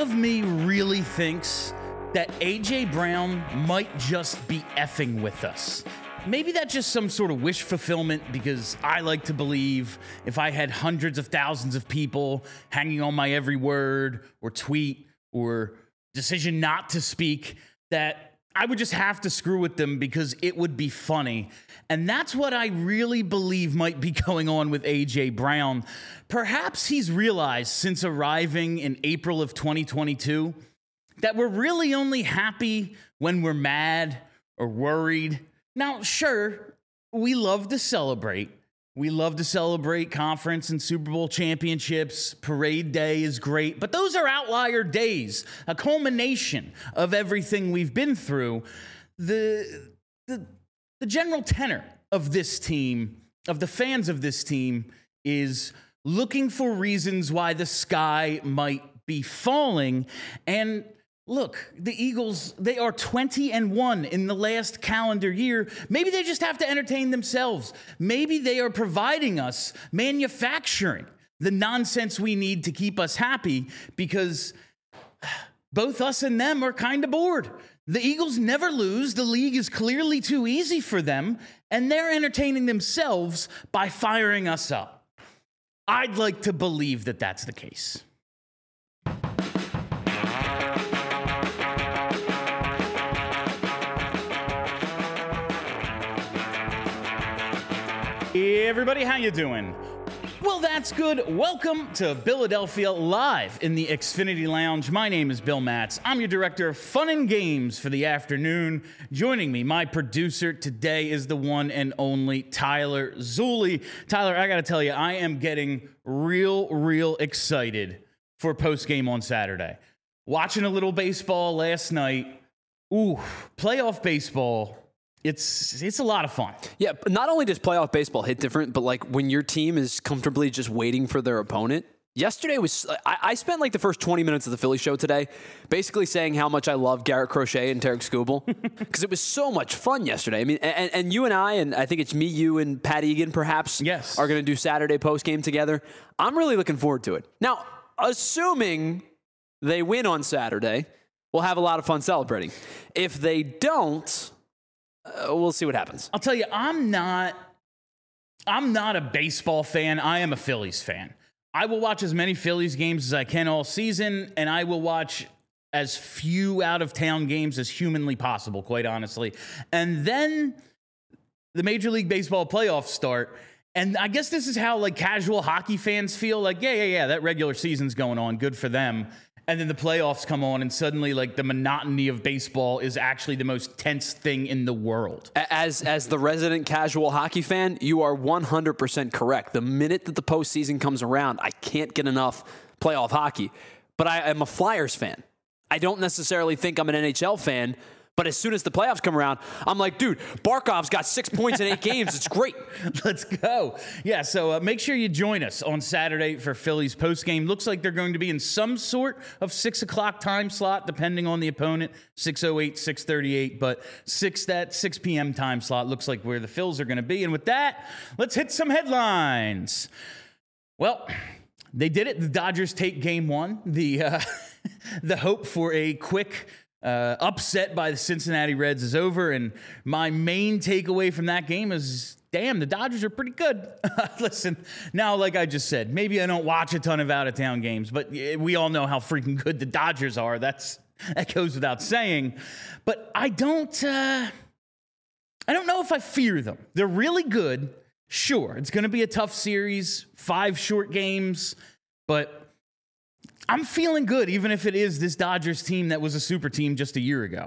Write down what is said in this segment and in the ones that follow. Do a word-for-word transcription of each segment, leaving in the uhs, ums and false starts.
of me really thinks that A J Brown might just be effing with us. Maybe that's just some sort of wish fulfillment, because I like to believe if I had hundreds of thousands of people hanging on my every word or tweet or decision not to speak, that I would just have to screw with them because it would be funny. And that's what I really believe might be going on with A J Brown. Perhaps he's realized since arriving in April of twenty twenty-two that we're really only happy when we're mad or worried. Now, sure, we love to celebrate. We love to celebrate conference and Super Bowl championships. Parade day is great, but those are outlier days, a culmination of everything we've been through. The, the, the general tenor of this team, of the fans of this team, is looking for reasons why the sky might be falling. And look, the Eagles, they are twenty and one in the last calendar year. Maybe they just have to entertain themselves. Maybe they are providing us, manufacturing the nonsense we need to keep us happy, because both us and them are kind of bored. The Eagles never lose. The league is clearly too easy for them, and they're entertaining themselves by firing us up. I'd like to believe that that's the case. Hey everybody, how you doing? Well, that's good. Welcome to Philadelphia Live in the Xfinity Lounge. My name is Bill Matz. I'm your director of fun and games for the afternoon. Joining me, my producer today is the one and only Tyler Zulli. Tyler, I got to tell you, I am getting real, real excited for postgame on Saturday. Watching a little baseball last night. Ooh, playoff baseball. It's it's a lot of fun. Yeah, but not only does playoff baseball hit different, but like when your team is comfortably just waiting for their opponent. Yesterday was, I, I spent like the first twenty minutes of the Philly show today basically saying how much I love Garrett Crochet and Tarek Skubal, because it was so much fun yesterday. I mean, and, and you and I, and I think it's me, you, and Pat Egan perhaps, yes, are going to do Saturday postgame together. I'm really looking forward to it. Now, assuming they win on Saturday, we'll have a lot of fun celebrating. If they don't, Uh, we'll see what happens. I'll tell you, I'm not I'm not a baseball fan. I am a Phillies fan. I will watch as many Phillies games as I can all season, and I will watch as few out-of-town games as humanly possible, quite honestly. And then the Major League Baseball playoffs start, and I guess this is how like casual hockey fans feel. Like, yeah, yeah, yeah, that regular season's going on. Good for them. And then the playoffs come on, and suddenly, like, the monotony of baseball is actually the most tense thing in the world. As as the resident casual hockey fan, you are one hundred percent correct. The minute that the postseason comes around, I can't get enough playoff hockey. But I am a Flyers fan. I don't necessarily think I'm an N H L fan, but as soon as the playoffs come around, I'm like, dude, Barkov's got six points in eight games. It's great. Let's go. Yeah, so uh, make sure you join us on Saturday for Phillies postgame. Looks like they're going to be in some sort of six o'clock time slot, depending on the opponent, six oh eight, six thirty-eight, but six that six p.m. time slot looks like where the Phils are going to be. And with that, let's hit some headlines. Well, they did it. The Dodgers take game one. The, uh, the hope for a quick Uh, upset by the Cincinnati Reds is over, and my main takeaway from that game is, damn, the Dodgers are pretty good. Listen, now, like I just said, maybe I don't watch a ton of out-of-town games, but we all know how freaking good the Dodgers are. That's that goes without saying. But I don't, uh, I don't know if I fear them. They're really good. Sure, it's going to be a tough series, five short games, but I'm feeling good, even if it is this Dodgers team that was a super team just a year ago.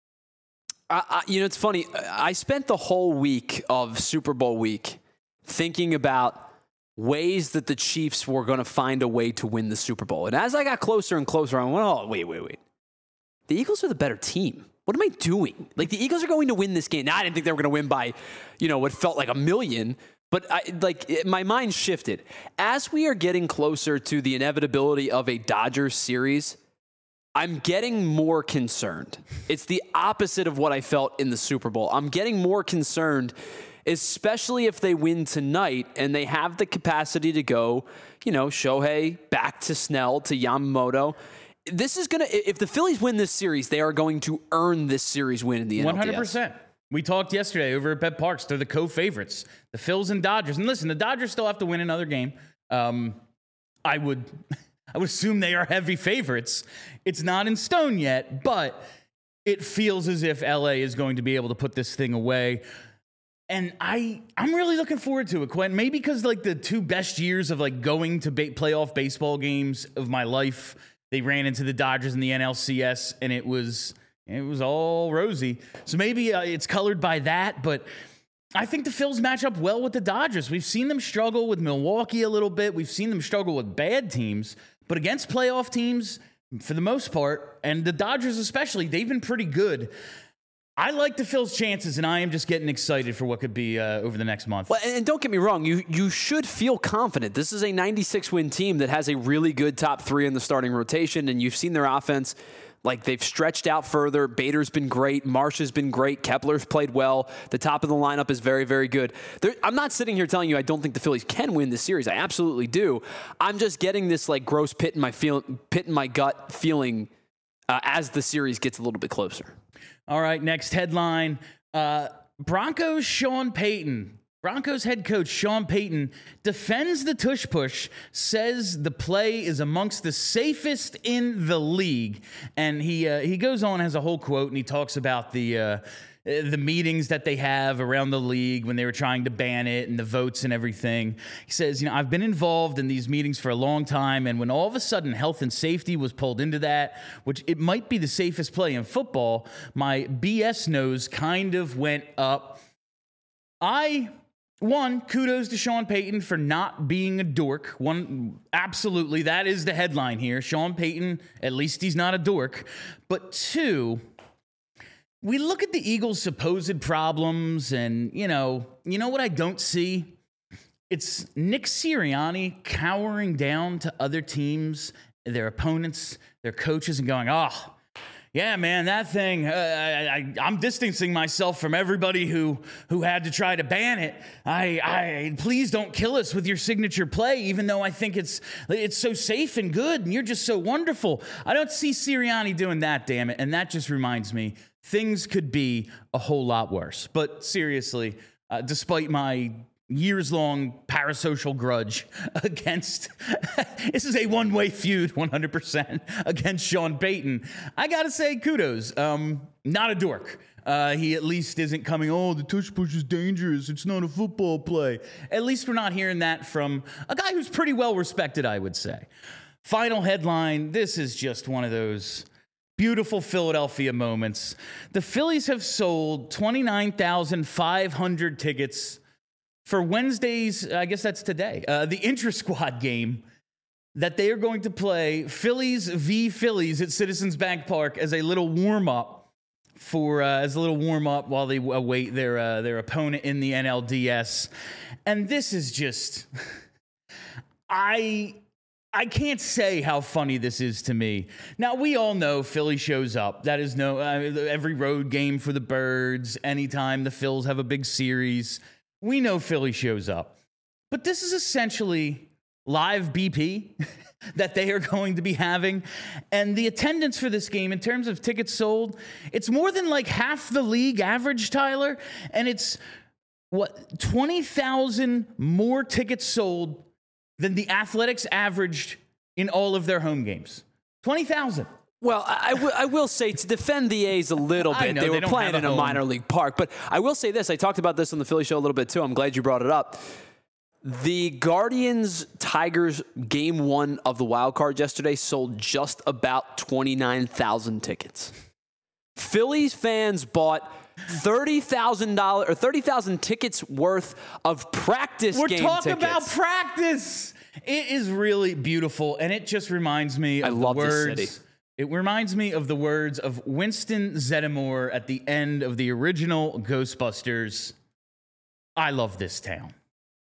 I, I, you know, it's funny. I spent the whole week of Super Bowl week thinking about ways that the Chiefs were going to find a way to win the Super Bowl. And as I got closer and closer, I went, oh, wait, wait, wait. The Eagles are the better team. What am I doing? Like, the Eagles are going to win this game. Now, I didn't think they were going to win by, you know, what felt like a million. But I, like it, my mind shifted. As we are getting closer to the inevitability of a Dodgers series, I'm getting more concerned. It's the opposite of what I felt in the Super Bowl. I'm getting more concerned, especially if they win tonight and they have the capacity to go, you know, Shohei back to Snell to Yamamoto. this is going to, if the Phillies win this series, they are going to earn this series win in the N L D S. one hundred percent. We talked yesterday over at Bet Parks. They're the co-favorites, the Phils and Dodgers. And listen, the Dodgers still have to win another game. Um, I would, I would assume they are heavy favorites. It's not in stone yet, but it feels as if L A is going to be able to put this thing away. And I, I'm really looking forward to it, Quentin. Maybe because like the two best years of like going to ba- playoff baseball games of my life, they ran into the Dodgers in the N L C S, and it was it was all rosy. So maybe uh, it's colored by that, but I think the Phils match up well with the Dodgers. We've seen them struggle with Milwaukee a little bit. We've seen them struggle with bad teams, but against playoff teams, for the most part, and the Dodgers especially, they've been pretty good. I like the Phils' chances, and I am just getting excited for what could be uh, over the next month. Well, and don't get me wrong, you you should feel confident. This is a ninety-six win team that has a really good top three in the starting rotation, and you've seen their offense. Like, they've stretched out further. Bader's been great. Marsh has been great. Kepler's played well. The top of the lineup is very, very good. There, I'm not sitting here telling you I don't think the Phillies can win this series. I absolutely do. I'm just getting this, like, gross pit in my feel, pit in my gut feeling uh, as the series gets a little bit closer. All right, next headline. Uh, Broncos Sean Payton. Broncos head coach Sean Payton defends the tush push, says the play is amongst the safest in the league. And he uh, he goes on, has a whole quote, and he talks about the uh, the meetings that they have around the league when they were trying to ban it and the votes and everything. He says, you know, I've been involved in these meetings for a long time, and when all of a sudden health and safety was pulled into that, which it might be the safest play in football, my B S nose kind of went up. I... One, kudos to Sean Payton for not being a dork. One, absolutely, that is the headline here. Sean Payton, at least he's not a dork. But two, we look at the Eagles' supposed problems, and, you know, you know what I don't see? It's Nick Sirianni cowering down to other teams, their opponents, their coaches, and going, oh, yeah, man, that thing, uh, I, I, I'm distancing myself from everybody who who had to try to ban it. I, I, please don't kill us with your signature play, even though I think it's it's so safe and good, and you're just so wonderful. I don't see Sirianni doing that, damn it, and that just reminds me, things could be a whole lot worse. But seriously, uh, despite my years-long parasocial grudge against, this is a one-way feud, one hundred percent, against Sean Payton. I gotta say, kudos. Um, not a dork. Uh, he at least isn't coming, oh, the tush push is dangerous. It's not a football play. At least we're not hearing that from a guy who's pretty well-respected, I would say. Final headline, this is just one of those beautiful Philadelphia moments. The Phillies have sold twenty-nine thousand five hundred tickets for Wednesday's, I guess that's today, uh, the intra-squad game that they are going to play Phillies v. Phillies at Citizens Bank Park as a little warm-up for uh, as a little warm-up while they await their uh, their opponent in the N L D S. And this is just, I I can't say how funny this is to me. Now, we all know Philly shows up. That is no uh, every road game for the Birds. Anytime the Phils have a big series, we know Philly shows up. But this is essentially live B P that they are going to be having. And the attendance for this game, in terms of tickets sold, it's more than like half the league average, Tyler. And it's, what, twenty thousand more tickets sold than the Athletics averaged in all of their home games. twenty thousand. Well, I, w- I will say, to defend the A's a little bit, know, they were they playing a in a home. minor league park. But I will say this. I talked about this on the Philly show a little bit, too. I'm glad you brought it up. The Guardians-Tigers game one of the wild card yesterday sold just about twenty-nine thousand tickets. Phillies fans bought thirty thousand dollars or thirty thousand tickets worth of practice We're game talking tickets. about practice. It is really beautiful, and it just reminds me of I the love this words. city. It reminds me of the words of Winston Zeddemore at the end of the original Ghostbusters. I love this town.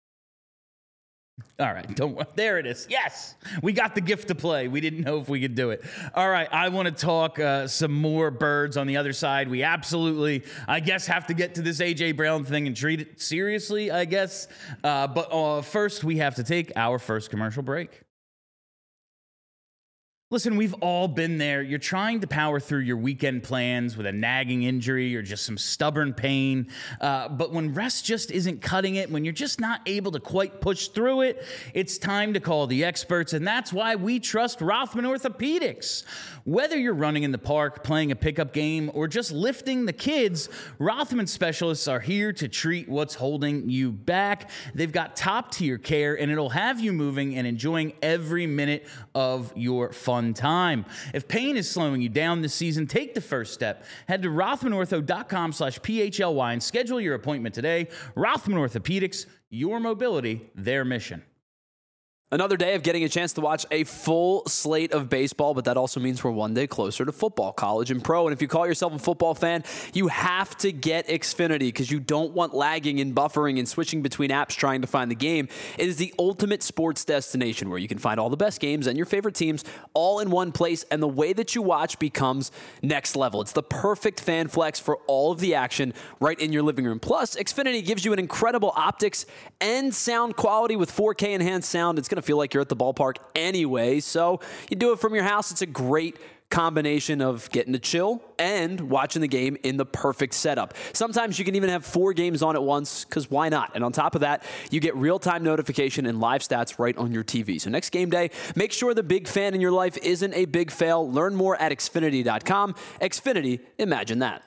All right, don't. There it is. Yes, we got the gift to play. We didn't know if we could do it. All right, I want to talk uh, some more Birds on the other side. We absolutely, I guess, have to get to this A J Brown thing and treat it seriously, I guess. Uh, but uh, first, we have to take our first commercial break. Listen, we've all been there. You're trying to power through your weekend plans with a nagging injury or just some stubborn pain. Uh, but when rest just isn't cutting it, when you're just not able to quite push through it, it's time to call the experts. And that's why we trust Rothman Orthopedics. Whether you're running in the park, playing a pickup game, or just lifting the kids, Rothman specialists are here to treat what's holding you back. They've got top-tier care, and it'll have you moving and enjoying every minute of your fun time. If pain is slowing you down this season, take the first step. Head to rothmanortho.com slash PHLY and schedule your appointment today. Rothman Orthopedics, your mobility, their mission. Another day of getting a chance to watch a full slate of baseball, but that also means we're one day closer to football, college, and pro. And if you call yourself a football fan, you have to get Xfinity because you don't want lagging and buffering and switching between apps trying to find the game. It is the ultimate sports destination where you can find all the best games and your favorite teams all in one place, and the way that you watch becomes next level. It's the perfect fan flex for all of the action right in your living room. Plus, Xfinity gives you an incredible optics and sound quality with four K enhanced sound. It's going to feel like you're at the ballpark anyway, so you do it from your house. It's a great combination of getting to chill and watching the game in the perfect setup. Sometimes you can even have four games on at once, because why not? And on top of that, you get real-time notification and live stats right on your T V. So next game day, make sure the big fan in your life isn't a big fail. Learn more at Xfinity dot com. Xfinity, imagine that.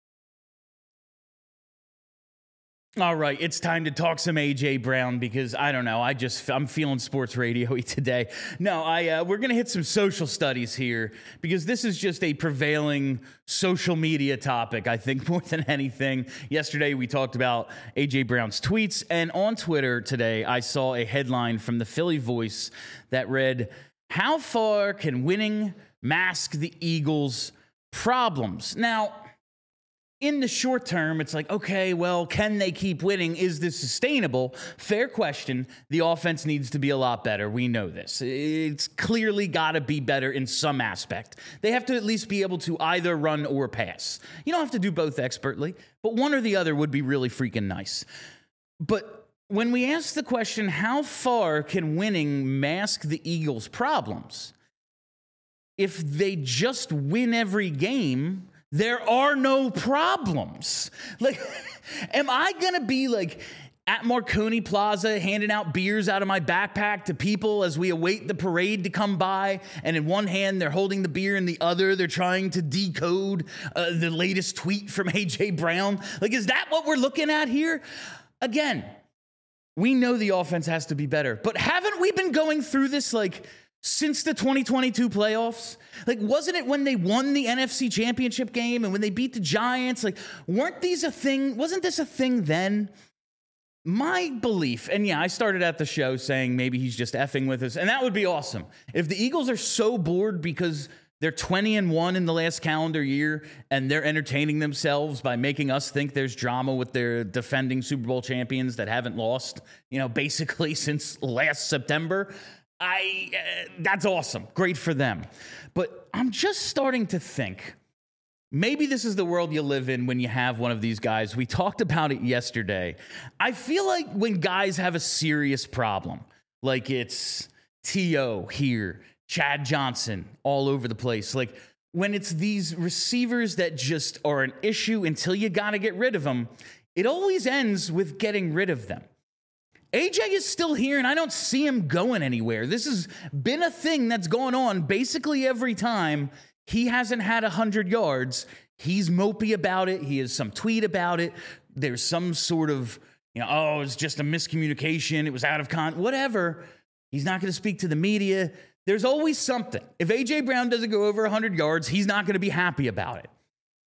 All right, it's time to talk some A J Brown because I don't know, I just I'm feeling sports radio-y today. No, I uh, we're gonna hit some social studies here because this is just a prevailing social media topic. I think more than anything. Yesterday we talked about A J Brown's tweets, and on Twitter today I saw a headline from the Philly Voice that read, "How far can winning mask the Eagles' problems?" Now, in the short term, it's like, okay, well, can they keep winning? Is this sustainable? Fair question. The offense needs to be a lot better. We know this. It's clearly got to be better in some aspect. They have to at least be able to either run or pass. You don't have to do both expertly, but one or the other would be really freaking nice. But when we ask the question, how far can winning mask the Eagles' problems? If they just win every game, there are no problems. Like, am I going to be like at Marconi Plaza handing out beers out of my backpack to people as we await the parade to come by? And in one hand, they're holding the beer, in the other, they're trying to decode uh, the latest tweet from A J Brown. Like, is that what we're looking at here? Again, we know the offense has to be better, but haven't we been going through this like since the twenty twenty-two playoffs? Like, wasn't it when they won the N F C Championship game and when they beat the Giants? Like, weren't these a thing? Wasn't this a thing then? My belief, and yeah, I started at the show saying maybe he's just effing with us, and that would be awesome. If the Eagles are so bored because they're twenty and one in the last calendar year and they're entertaining themselves by making us think there's drama with their defending Super Bowl champions that haven't lost, you know, basically since last September, I uh, that's awesome. Great for them. But I'm just starting to think maybe this is the world you live in when you have one of these guys. We talked about it yesterday. I feel like when guys have a serious problem, like it's T O here, Chad Johnson all over the place, like when it's these receivers that just are an issue until you got to get rid of them, it always ends with getting rid of them. A J is still here, and I don't see him going anywhere. This has been a thing that's gone on basically every time he hasn't had one hundred yards. He's mopey about it. He has some tweet about it. There's some sort of, you know, oh, it's just a miscommunication. It was out of con, whatever. He's not going to speak to the media. There's always something. If A J Brown doesn't go over one hundred yards, he's not going to be happy about it.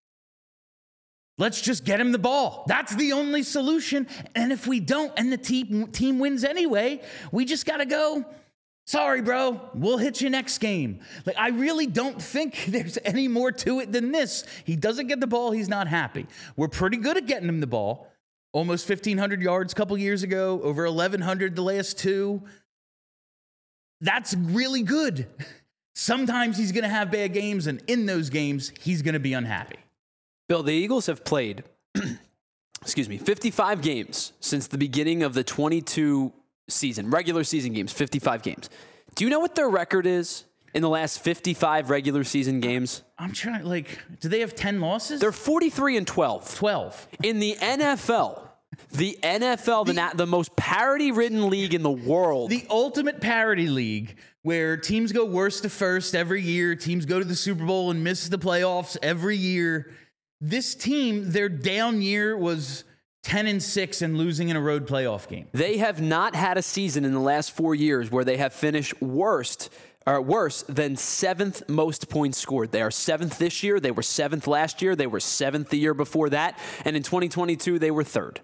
Let's just get him the ball. That's the only solution. And if we don't, and the team, team wins anyway, we just got to go, sorry, bro, we'll hit you next game. Like, I really don't think there's any more to it than this. He doesn't get the ball, he's not happy. We're pretty good at getting him the ball. Almost fifteen hundred yards a couple years ago, over eleven hundred the last two. That's really good. Sometimes he's going to have bad games, and in those games, he's going to be unhappy. Bill, the Eagles have played, excuse me, fifty-five games since the beginning of the twenty-two season, regular season games, fifty-five games. Do you know what their record is in the last fifty-five regular season games. I'm trying, like, do they have ten losses? They're forty-three and twelve. twelve. In the N F L, the N F L, the, the, the most parity-ridden league in the world. The ultimate parity league where teams go worst to first every year. Teams go to the Super Bowl and miss the playoffs every year. This team, their down year was ten and six and losing in a road playoff game. They have not had a season in the last four years where they have finished worst or worse than seventh most points scored. They are seventh this year. They were seventh last year. They were seventh the year before that. And in twenty twenty-two, they were third.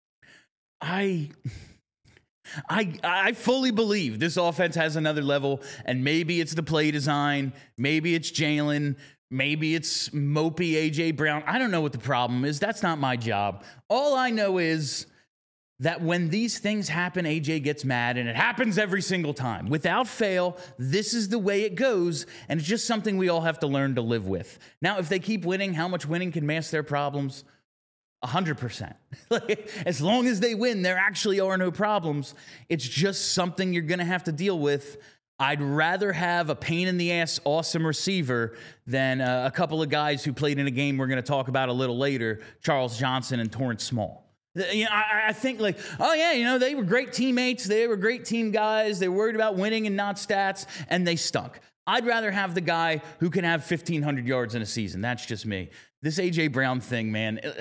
I... I I fully believe this offense has another level, and maybe it's the play design, maybe it's Jalen, maybe it's mopey A J Brown. I don't know what the problem is. That's not my job. All I know is that when these things happen, A J gets mad, and it happens every single time. Without fail, this is the way it goes, and it's just something we all have to learn to live with. Now, if they keep winning, how much winning can mask their problems? one hundred percent. As long as they win, there actually are no problems. It's just something you're going to have to deal with. I'd rather have a pain-in-the-ass awesome receiver than uh, a couple of guys who played in a game we're going to talk about a little later, Charles Johnson and Torrance Small. You know, I, I think like, oh, yeah, you know, they were great teammates. They were great team guys. They were worried about winning and not stats, and they stunk. I'd rather have the guy who can have fifteen hundred yards in a season. That's just me. This A J Brown thing, man, it,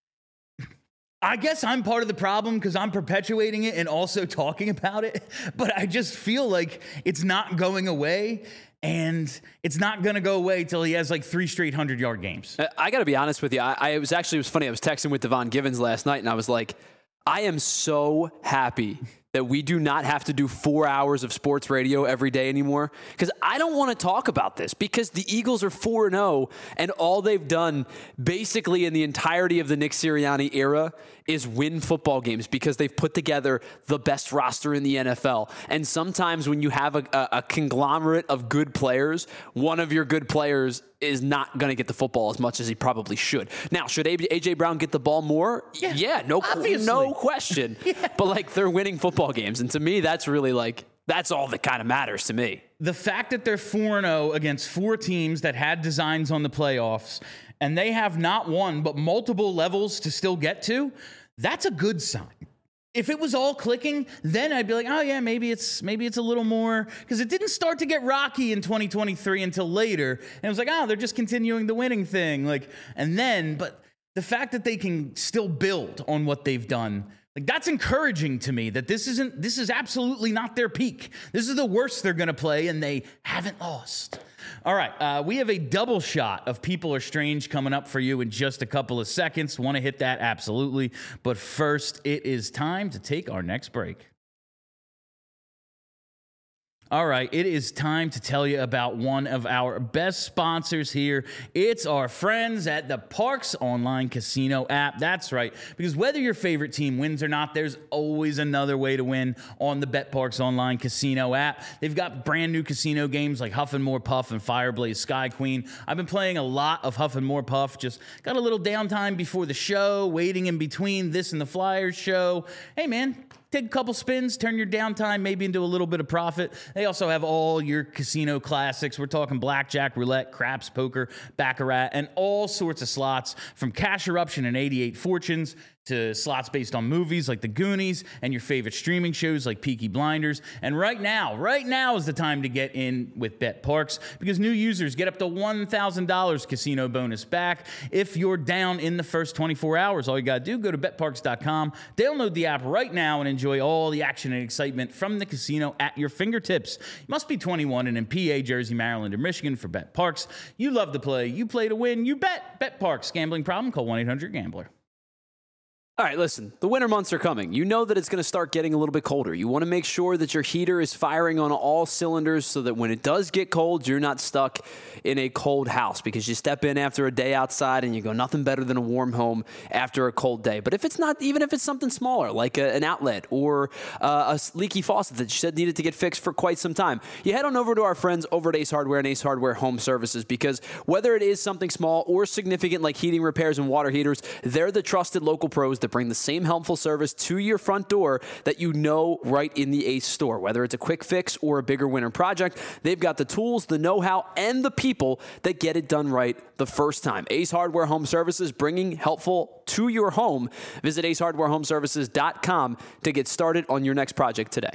I guess I'm part of the problem because I'm perpetuating it and also talking about it, but I just feel like it's not going away, and it's not going to go away till he has like three straight hundred-yard games. I got to be honest with you. I, I it was actually, it was funny. I was texting with Devon Givens last night, and I was like, I am so happy that we do not have to do four hours of sports radio every day anymore, because I don't want to talk about this, because the Eagles are four and oh, and all they've done basically in the entirety of the Nick Sirianni era is win football games because they've put together the best roster in the N F L. And sometimes when you have a, a, a conglomerate of good players, one of your good players is not going to get the football as much as he probably should. Now, should A J Brown get the ball more? Yeah, yeah no, obviously. no question. Yeah. But like, they're winning football games, and to me, that's really like, that's all that kind of matters to me. The fact that they're four and oh against four teams that had designs on the playoffs, and they have not one but multiple levels to still get to, that's a good sign. If it was all clicking, then I'd be like, oh yeah, maybe it's maybe it's a little more, because it didn't start to get rocky in twenty twenty-three until later, and it was like, oh, they're just continuing the winning thing, like, and then, but the fact that they can still build on what they've done, like, that's encouraging to me, that this isn't, this is absolutely not their peak. This is the worst they're going to play, and they haven't lost. All right, uh, we have a double shot of People Are Strange coming up for you in just a couple of seconds. Want to hit that? Absolutely. But first, it is time to take our next break. All right, it is time to tell you about one of our best sponsors here. It's our friends at the Parx Online Casino app. That's right, because whether your favorite team wins or not, there's always another way to win on the BetParx Online Casino app. They've got brand new casino games like Huff and More Puff and Fireblaze Sky Queen. I've been playing a lot of Huff and More Puff, just got a little downtime before the show, waiting in between this and the Flyers show. Hey, man. Take a couple spins, turn your downtime maybe into a little bit of profit. They also have all your casino classics. We're talking blackjack, roulette, craps, poker, baccarat, and all sorts of slots, from Cash Eruption and eighty-eight Fortunes to slots based on movies like The Goonies and your favorite streaming shows like Peaky Blinders. And right now, right now is the time to get in with BetParx, because new users get up to one thousand dollars casino bonus back if you're down in the first twenty-four hours. All you got to do, go to bet parx dot com, download the app right now, and enjoy all the action and excitement from the casino at your fingertips. You must be twenty-one and in P A, Jersey, Maryland, or Michigan for BetParx. You love to play. You play to win. You bet. BetParx. Gambling problem? Call one eight hundred gambler. All right, listen, the winter months are coming. You know that it's going to start getting a little bit colder. You want to make sure that your heater is firing on all cylinders so that when it does get cold, you're not stuck in a cold house, because you step in after a day outside and you go, nothing better than a warm home after a cold day. But if it's not, even if it's something smaller, like a, an outlet or uh, a leaky faucet that you said needed to get fixed for quite some time, you head on over to our friends over at Ace Hardware and Ace Hardware Home Services, because whether it is something small or significant like heating repairs and water heaters, they're the trusted local pros that bring the same helpful service to your front door that you know right in the Ace store. Whether it's a quick fix or a bigger winter project, they've got the tools, the know-how, and the people that get it done right the first time. Ace Hardware Home Services, bringing helpful to your home. Visit ace hardware home services dot com to get started on your next project today.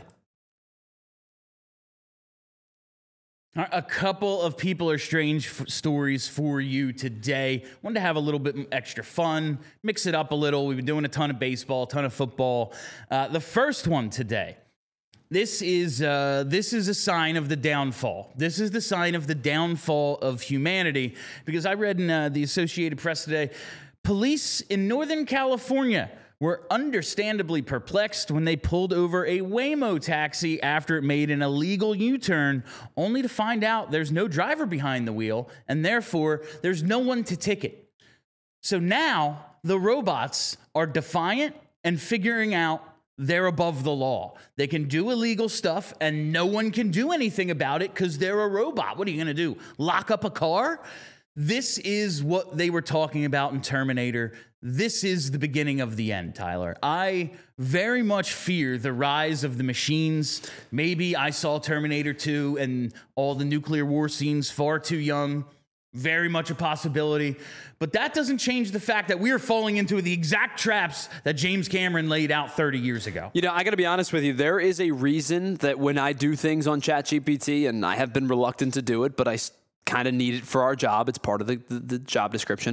A couple of people are strange f- stories for you today. Wanted to have a little bit extra fun, mix it up a little. We've been doing a ton of baseball, a ton of football. Uh, the first one today, this is uh, this is a sign of the downfall. This is the sign of the downfall of humanity, because I read in uh, the Associated Press today, police in Northern California were understandably perplexed when they pulled over a Waymo taxi after it made an illegal U-turn, only to find out there's no driver behind the wheel, and therefore there's no one to ticket. So now the robots are defiant and figuring out they're above the law. They can do illegal stuff, and no one can do anything about it because they're a robot. What are you going to do? Lock up a car? This is what they were talking about in Terminator. This is the beginning of the end, Tyler. I very much fear the rise of the machines. Maybe I saw Terminator two and all the nuclear war scenes far too young. Very much a possibility. But that doesn't change the fact that we are falling into the exact traps that James Cameron laid out thirty years ago. You know, I got to be honest with you. There is a reason that when I do things on ChatGPT, and I have been reluctant to do it, but I kind of need it for our job. It's part of the, the, the job description.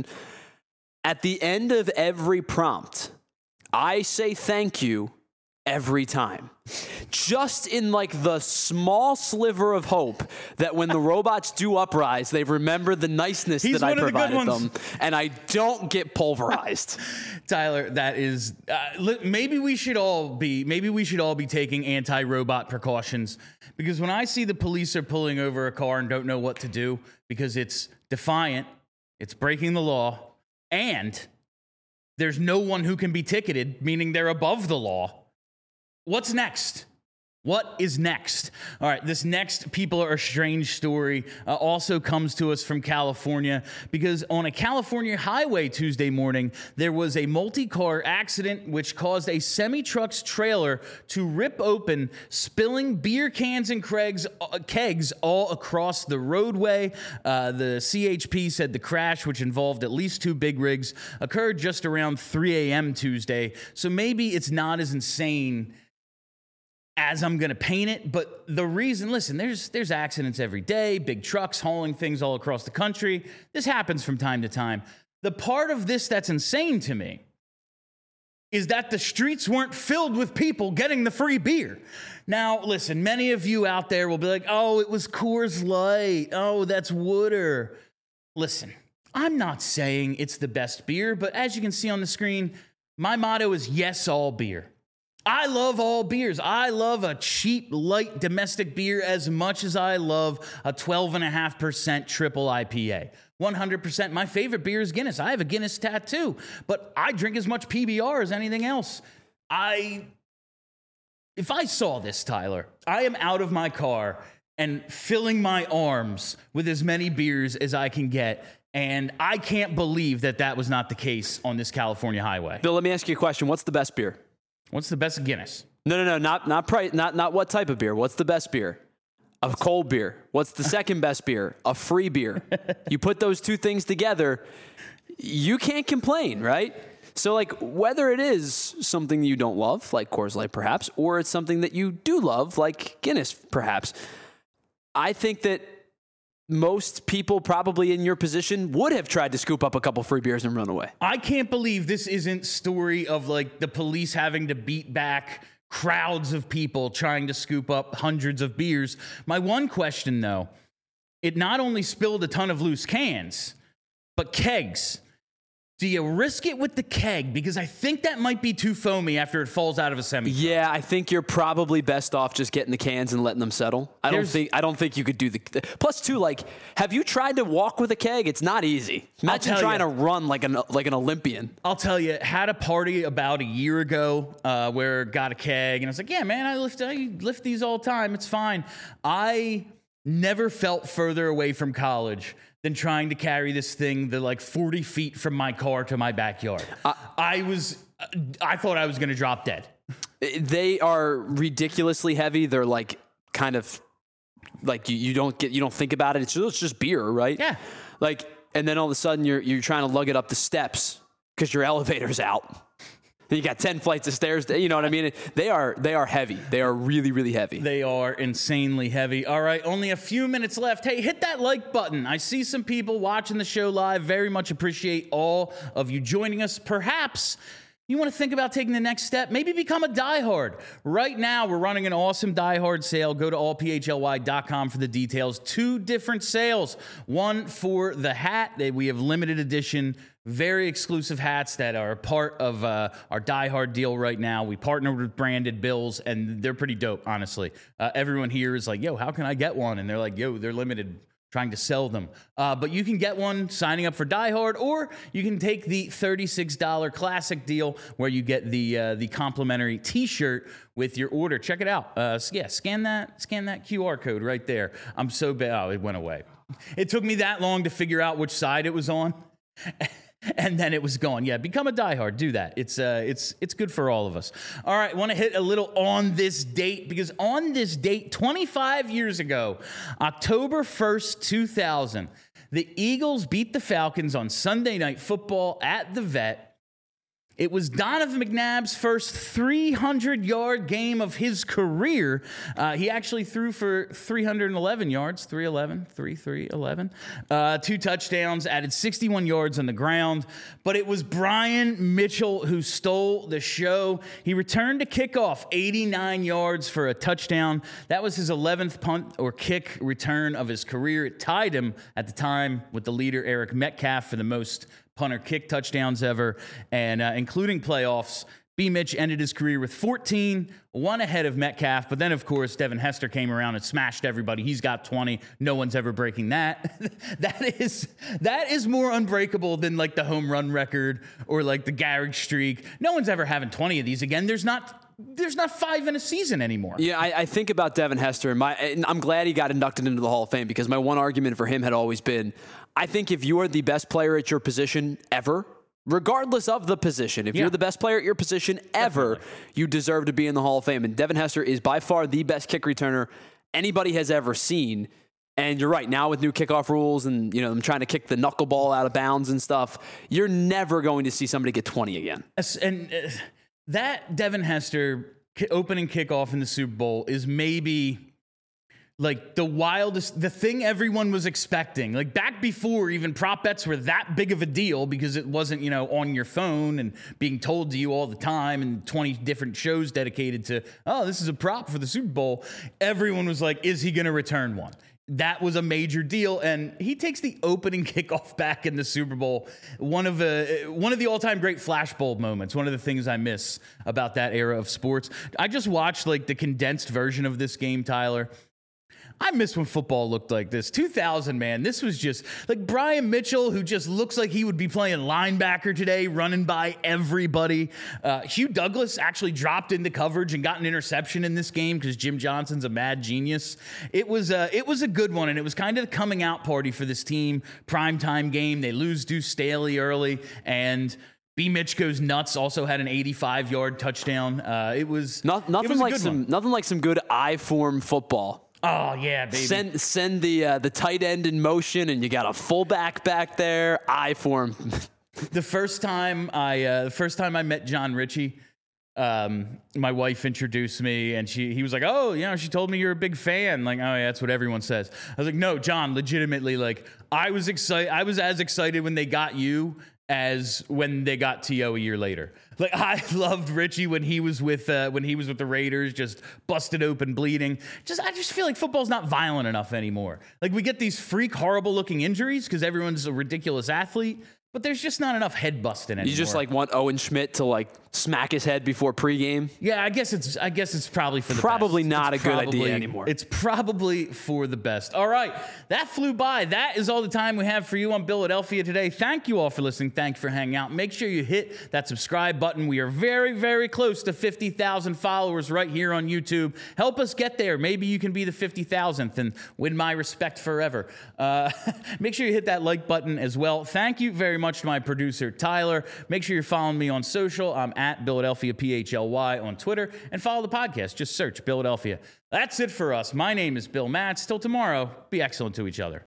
At the end of every prompt, I say thank you every time. Just in like the small sliver of hope that when the robots do uprise, they remember the niceness He's that I one of the good provided ones. them, and I don't get pulverized. Tyler, that is uh, li- maybe we should all be maybe we should all be taking anti-robot precautions, because when I see the police are pulling over a car and don't know what to do because it's defiant, it's breaking the law, and there's no one who can be ticketed, meaning they're above the law. What's next? What is next? All right, this next people are strange story uh, also comes to us from California, because on a California highway Tuesday morning, there was a multi-car accident which caused a semi-truck's trailer to rip open, spilling beer cans and kegs, uh, kegs all across the roadway. Uh, the C H P said the crash, which involved at least two big rigs, occurred just around three a.m. Tuesday. So maybe it's not as insane as I'm going to paint it. But the reason, listen, there's there's accidents every day, big trucks hauling things all across the country. This happens from time to time. The part of this that's insane to me is that the streets weren't filled with people getting the free beer. Now, listen, many of you out there will be like, oh, it was Coors Light. Oh, that's water. Listen, I'm not saying it's the best beer, but as you can see on the screen, my motto is yes, all beer. I love all beers. I love a cheap, light domestic beer as much as I love a twelve point five percent triple I P A. one hundred percent. My favorite beer is Guinness. I have a Guinness tattoo, but I drink as much P B R as anything else. I, if I saw this, Tyler, I am out of my car and filling my arms with as many beers as I can get. And I can't believe that that was not the case on this California highway. Bill, let me ask you a question. What's the best beer? What's the best Guinness? No, no, no, not not price, not not what type of beer. What's the best beer? A cold beer. What's the second best beer? A free beer. You put those two things together, you can't complain, right? So, like, whether it is something you don't love, like Coors Light, perhaps, or it's something that you do love, like Guinness, perhaps, I think that most people probably in your position would have tried to scoop up a couple free beers and run away. I can't believe this isn't story of like the police having to beat back crowds of people trying to scoop up hundreds of beers. My one question, though, it not only spilled a ton of loose cans, but kegs. Do you risk it with the keg? Because I think that might be too foamy after it falls out of a semi. Yeah, I think you're probably best off just getting the cans and letting them settle. I There's, don't think I don't think you could do the. Plus, two, like, have you tried to walk with a keg? It's not easy. Imagine trying you, to run like an like an Olympian. I'll tell you, had a party about a year ago uh, where got a keg, and I was like, yeah, man, I lift I lift these all the time. It's fine. I never felt further away from college than trying to carry this thing the like forty feet from my car to my backyard. Uh, I was I thought I was going to drop dead. They are ridiculously heavy. They're like kind of like you, you don't get you don't think about it. It's just, it's just beer, right? Yeah. Like, and then all of a sudden you're you're trying to lug it up the steps because your elevator's out. You got ten flights of stairs. You know what I mean? They are they are heavy. They are really, really heavy. They are insanely heavy. All right, only a few minutes left. Hey, hit that like button. I see some people watching the show live. Very much appreciate all of you joining us. Perhaps you want to think about taking the next step? Maybe become a diehard. Right now, we're running an awesome diehard sale. Go to all p h l y dot com for the details. Two different sales. One for the hat. We have limited edition, very exclusive hats that are part of uh, our diehard deal right now. We partnered with Branded Bills, and they're pretty dope, honestly. Uh, everyone here is like, yo, how can I get one? And they're like, yo, they're limited. Trying to sell them. Uh, but you can get one signing up for Die Hard, or you can take the thirty-six dollars classic deal where you get the uh, the complimentary t-shirt with your order. Check it out. Uh, yeah, scan that, scan that Q R code right there. I'm so bad. Oh, it went away. It took me that long to figure out which side it was on. And then it was gone. Yeah, become a diehard. Do that. It's uh, it's it's good for all of us. All right, want to hit a little on this date, because on this date, twenty-five years ago, October first, two thousand, the Eagles beat the Falcons on Sunday Night Football at the Vet. It was Donovan McNabb's first three hundred yard game of his career. Uh, he actually threw for three hundred eleven yards, three eleven, three three eleven, uh, two touchdowns, added sixty-one yards on the ground. But it was Brian Mitchell who stole the show. He returned to kickoff, eighty-nine yards for a touchdown. That was his eleventh punt or kick return of his career. It tied him at the time with the leader, Eric Metcalf, for the most punter kick touchdowns ever, and uh, including playoffs. B. Mitch ended his career with fourteen, one ahead of Metcalf. But then, of course, Devin Hester came around and smashed everybody. He's got twenty. No one's ever breaking that. that is that is more unbreakable than like the home run record or like the Garrick streak. No one's ever having twenty of these again. There's not. There's not five in a season anymore. Yeah, I, I think about Devin Hester, and, my, and I'm glad he got inducted into the Hall of Fame, because my one argument for him had always been, I think if you are the best player at your position ever, regardless of the position, if yeah. you're the best player at your position ever, Definitely. you deserve to be in the Hall of Fame. And Devin Hester is by far the best kick returner anybody has ever seen. And you're right, now with new kickoff rules and, you know, them trying to kick the knuckleball out of bounds and stuff, you're never going to see somebody get twenty again. And uh, that Devin Hester opening kickoff in the Super Bowl is maybe like the wildest, the thing everyone was expecting. Like back before even prop bets were that big of a deal, because it wasn't, you know, on your phone and being told to you all the time, and twenty different shows dedicated to, oh, this is a prop for the Super Bowl. Everyone was like, is he going to return one? That was a major deal, and he takes the opening kickoff back in the Super Bowl. One of the one of the all-time great flashbulb moments. One of the things I miss about that era of sports. I just watched like the condensed version of this game, Tyler. I miss when football looked like this. two thousand, man, this was just like Brian Mitchell, who just looks like he would be playing linebacker today, running by everybody. Uh, Hugh Douglas actually dropped into coverage and got an interception in this game because Jim Johnson's a mad genius. It was, uh, it was a good one, and it was kind of the coming out party for this team. Primetime game. They lose Deuce Staley early, and B. Mitch goes nuts. Also had an eighty-five yard touchdown. Uh, it was Not, nothing it was like some one. nothing like some good I form football. Oh, yeah, baby. Send send the uh, the tight end in motion, and you got a fullback back there. I form. the first time I uh, the first time I met John Ritchie, um, my wife introduced me, and she he was like, "Oh, you know, she told me you're a big fan." Like, "Oh, yeah, that's what everyone says." I was like, "No, John, legitimately, like, I was excited. I was as excited when they got you as when they got T O a year later." Like, I loved Richie when he was with uh, when he was with the Raiders, just busted open, bleeding. Just I just feel like football's not violent enough anymore. Like, we get these freak, horrible looking injuries because everyone's a ridiculous athlete, but there's just not enough head busting anymore. You just like want Owen Schmidt to like smack his head before pregame? Yeah, I guess it's I guess it's probably for the probably best. not it's a probably, good idea anymore. It's probably for the best. All right, that flew by. That is all the time we have for you on Philadelphia today. Thank you all for listening. Thank you for hanging out. Make sure you hit that subscribe button. We are very, very close to fifty thousand followers right here on YouTube. Help us get there. Maybe you can be the fifty thousandth and win my respect forever. Uh, make sure you hit that like button as well. Thank you very much. much to my producer, Tyler. Make sure you're following me on social. I'm at Philadelphia P H L Y on Twitter. And follow the podcast. Just search Philadelphia. That's it for us. My name is Bill Matz. Till tomorrow, be excellent to each other.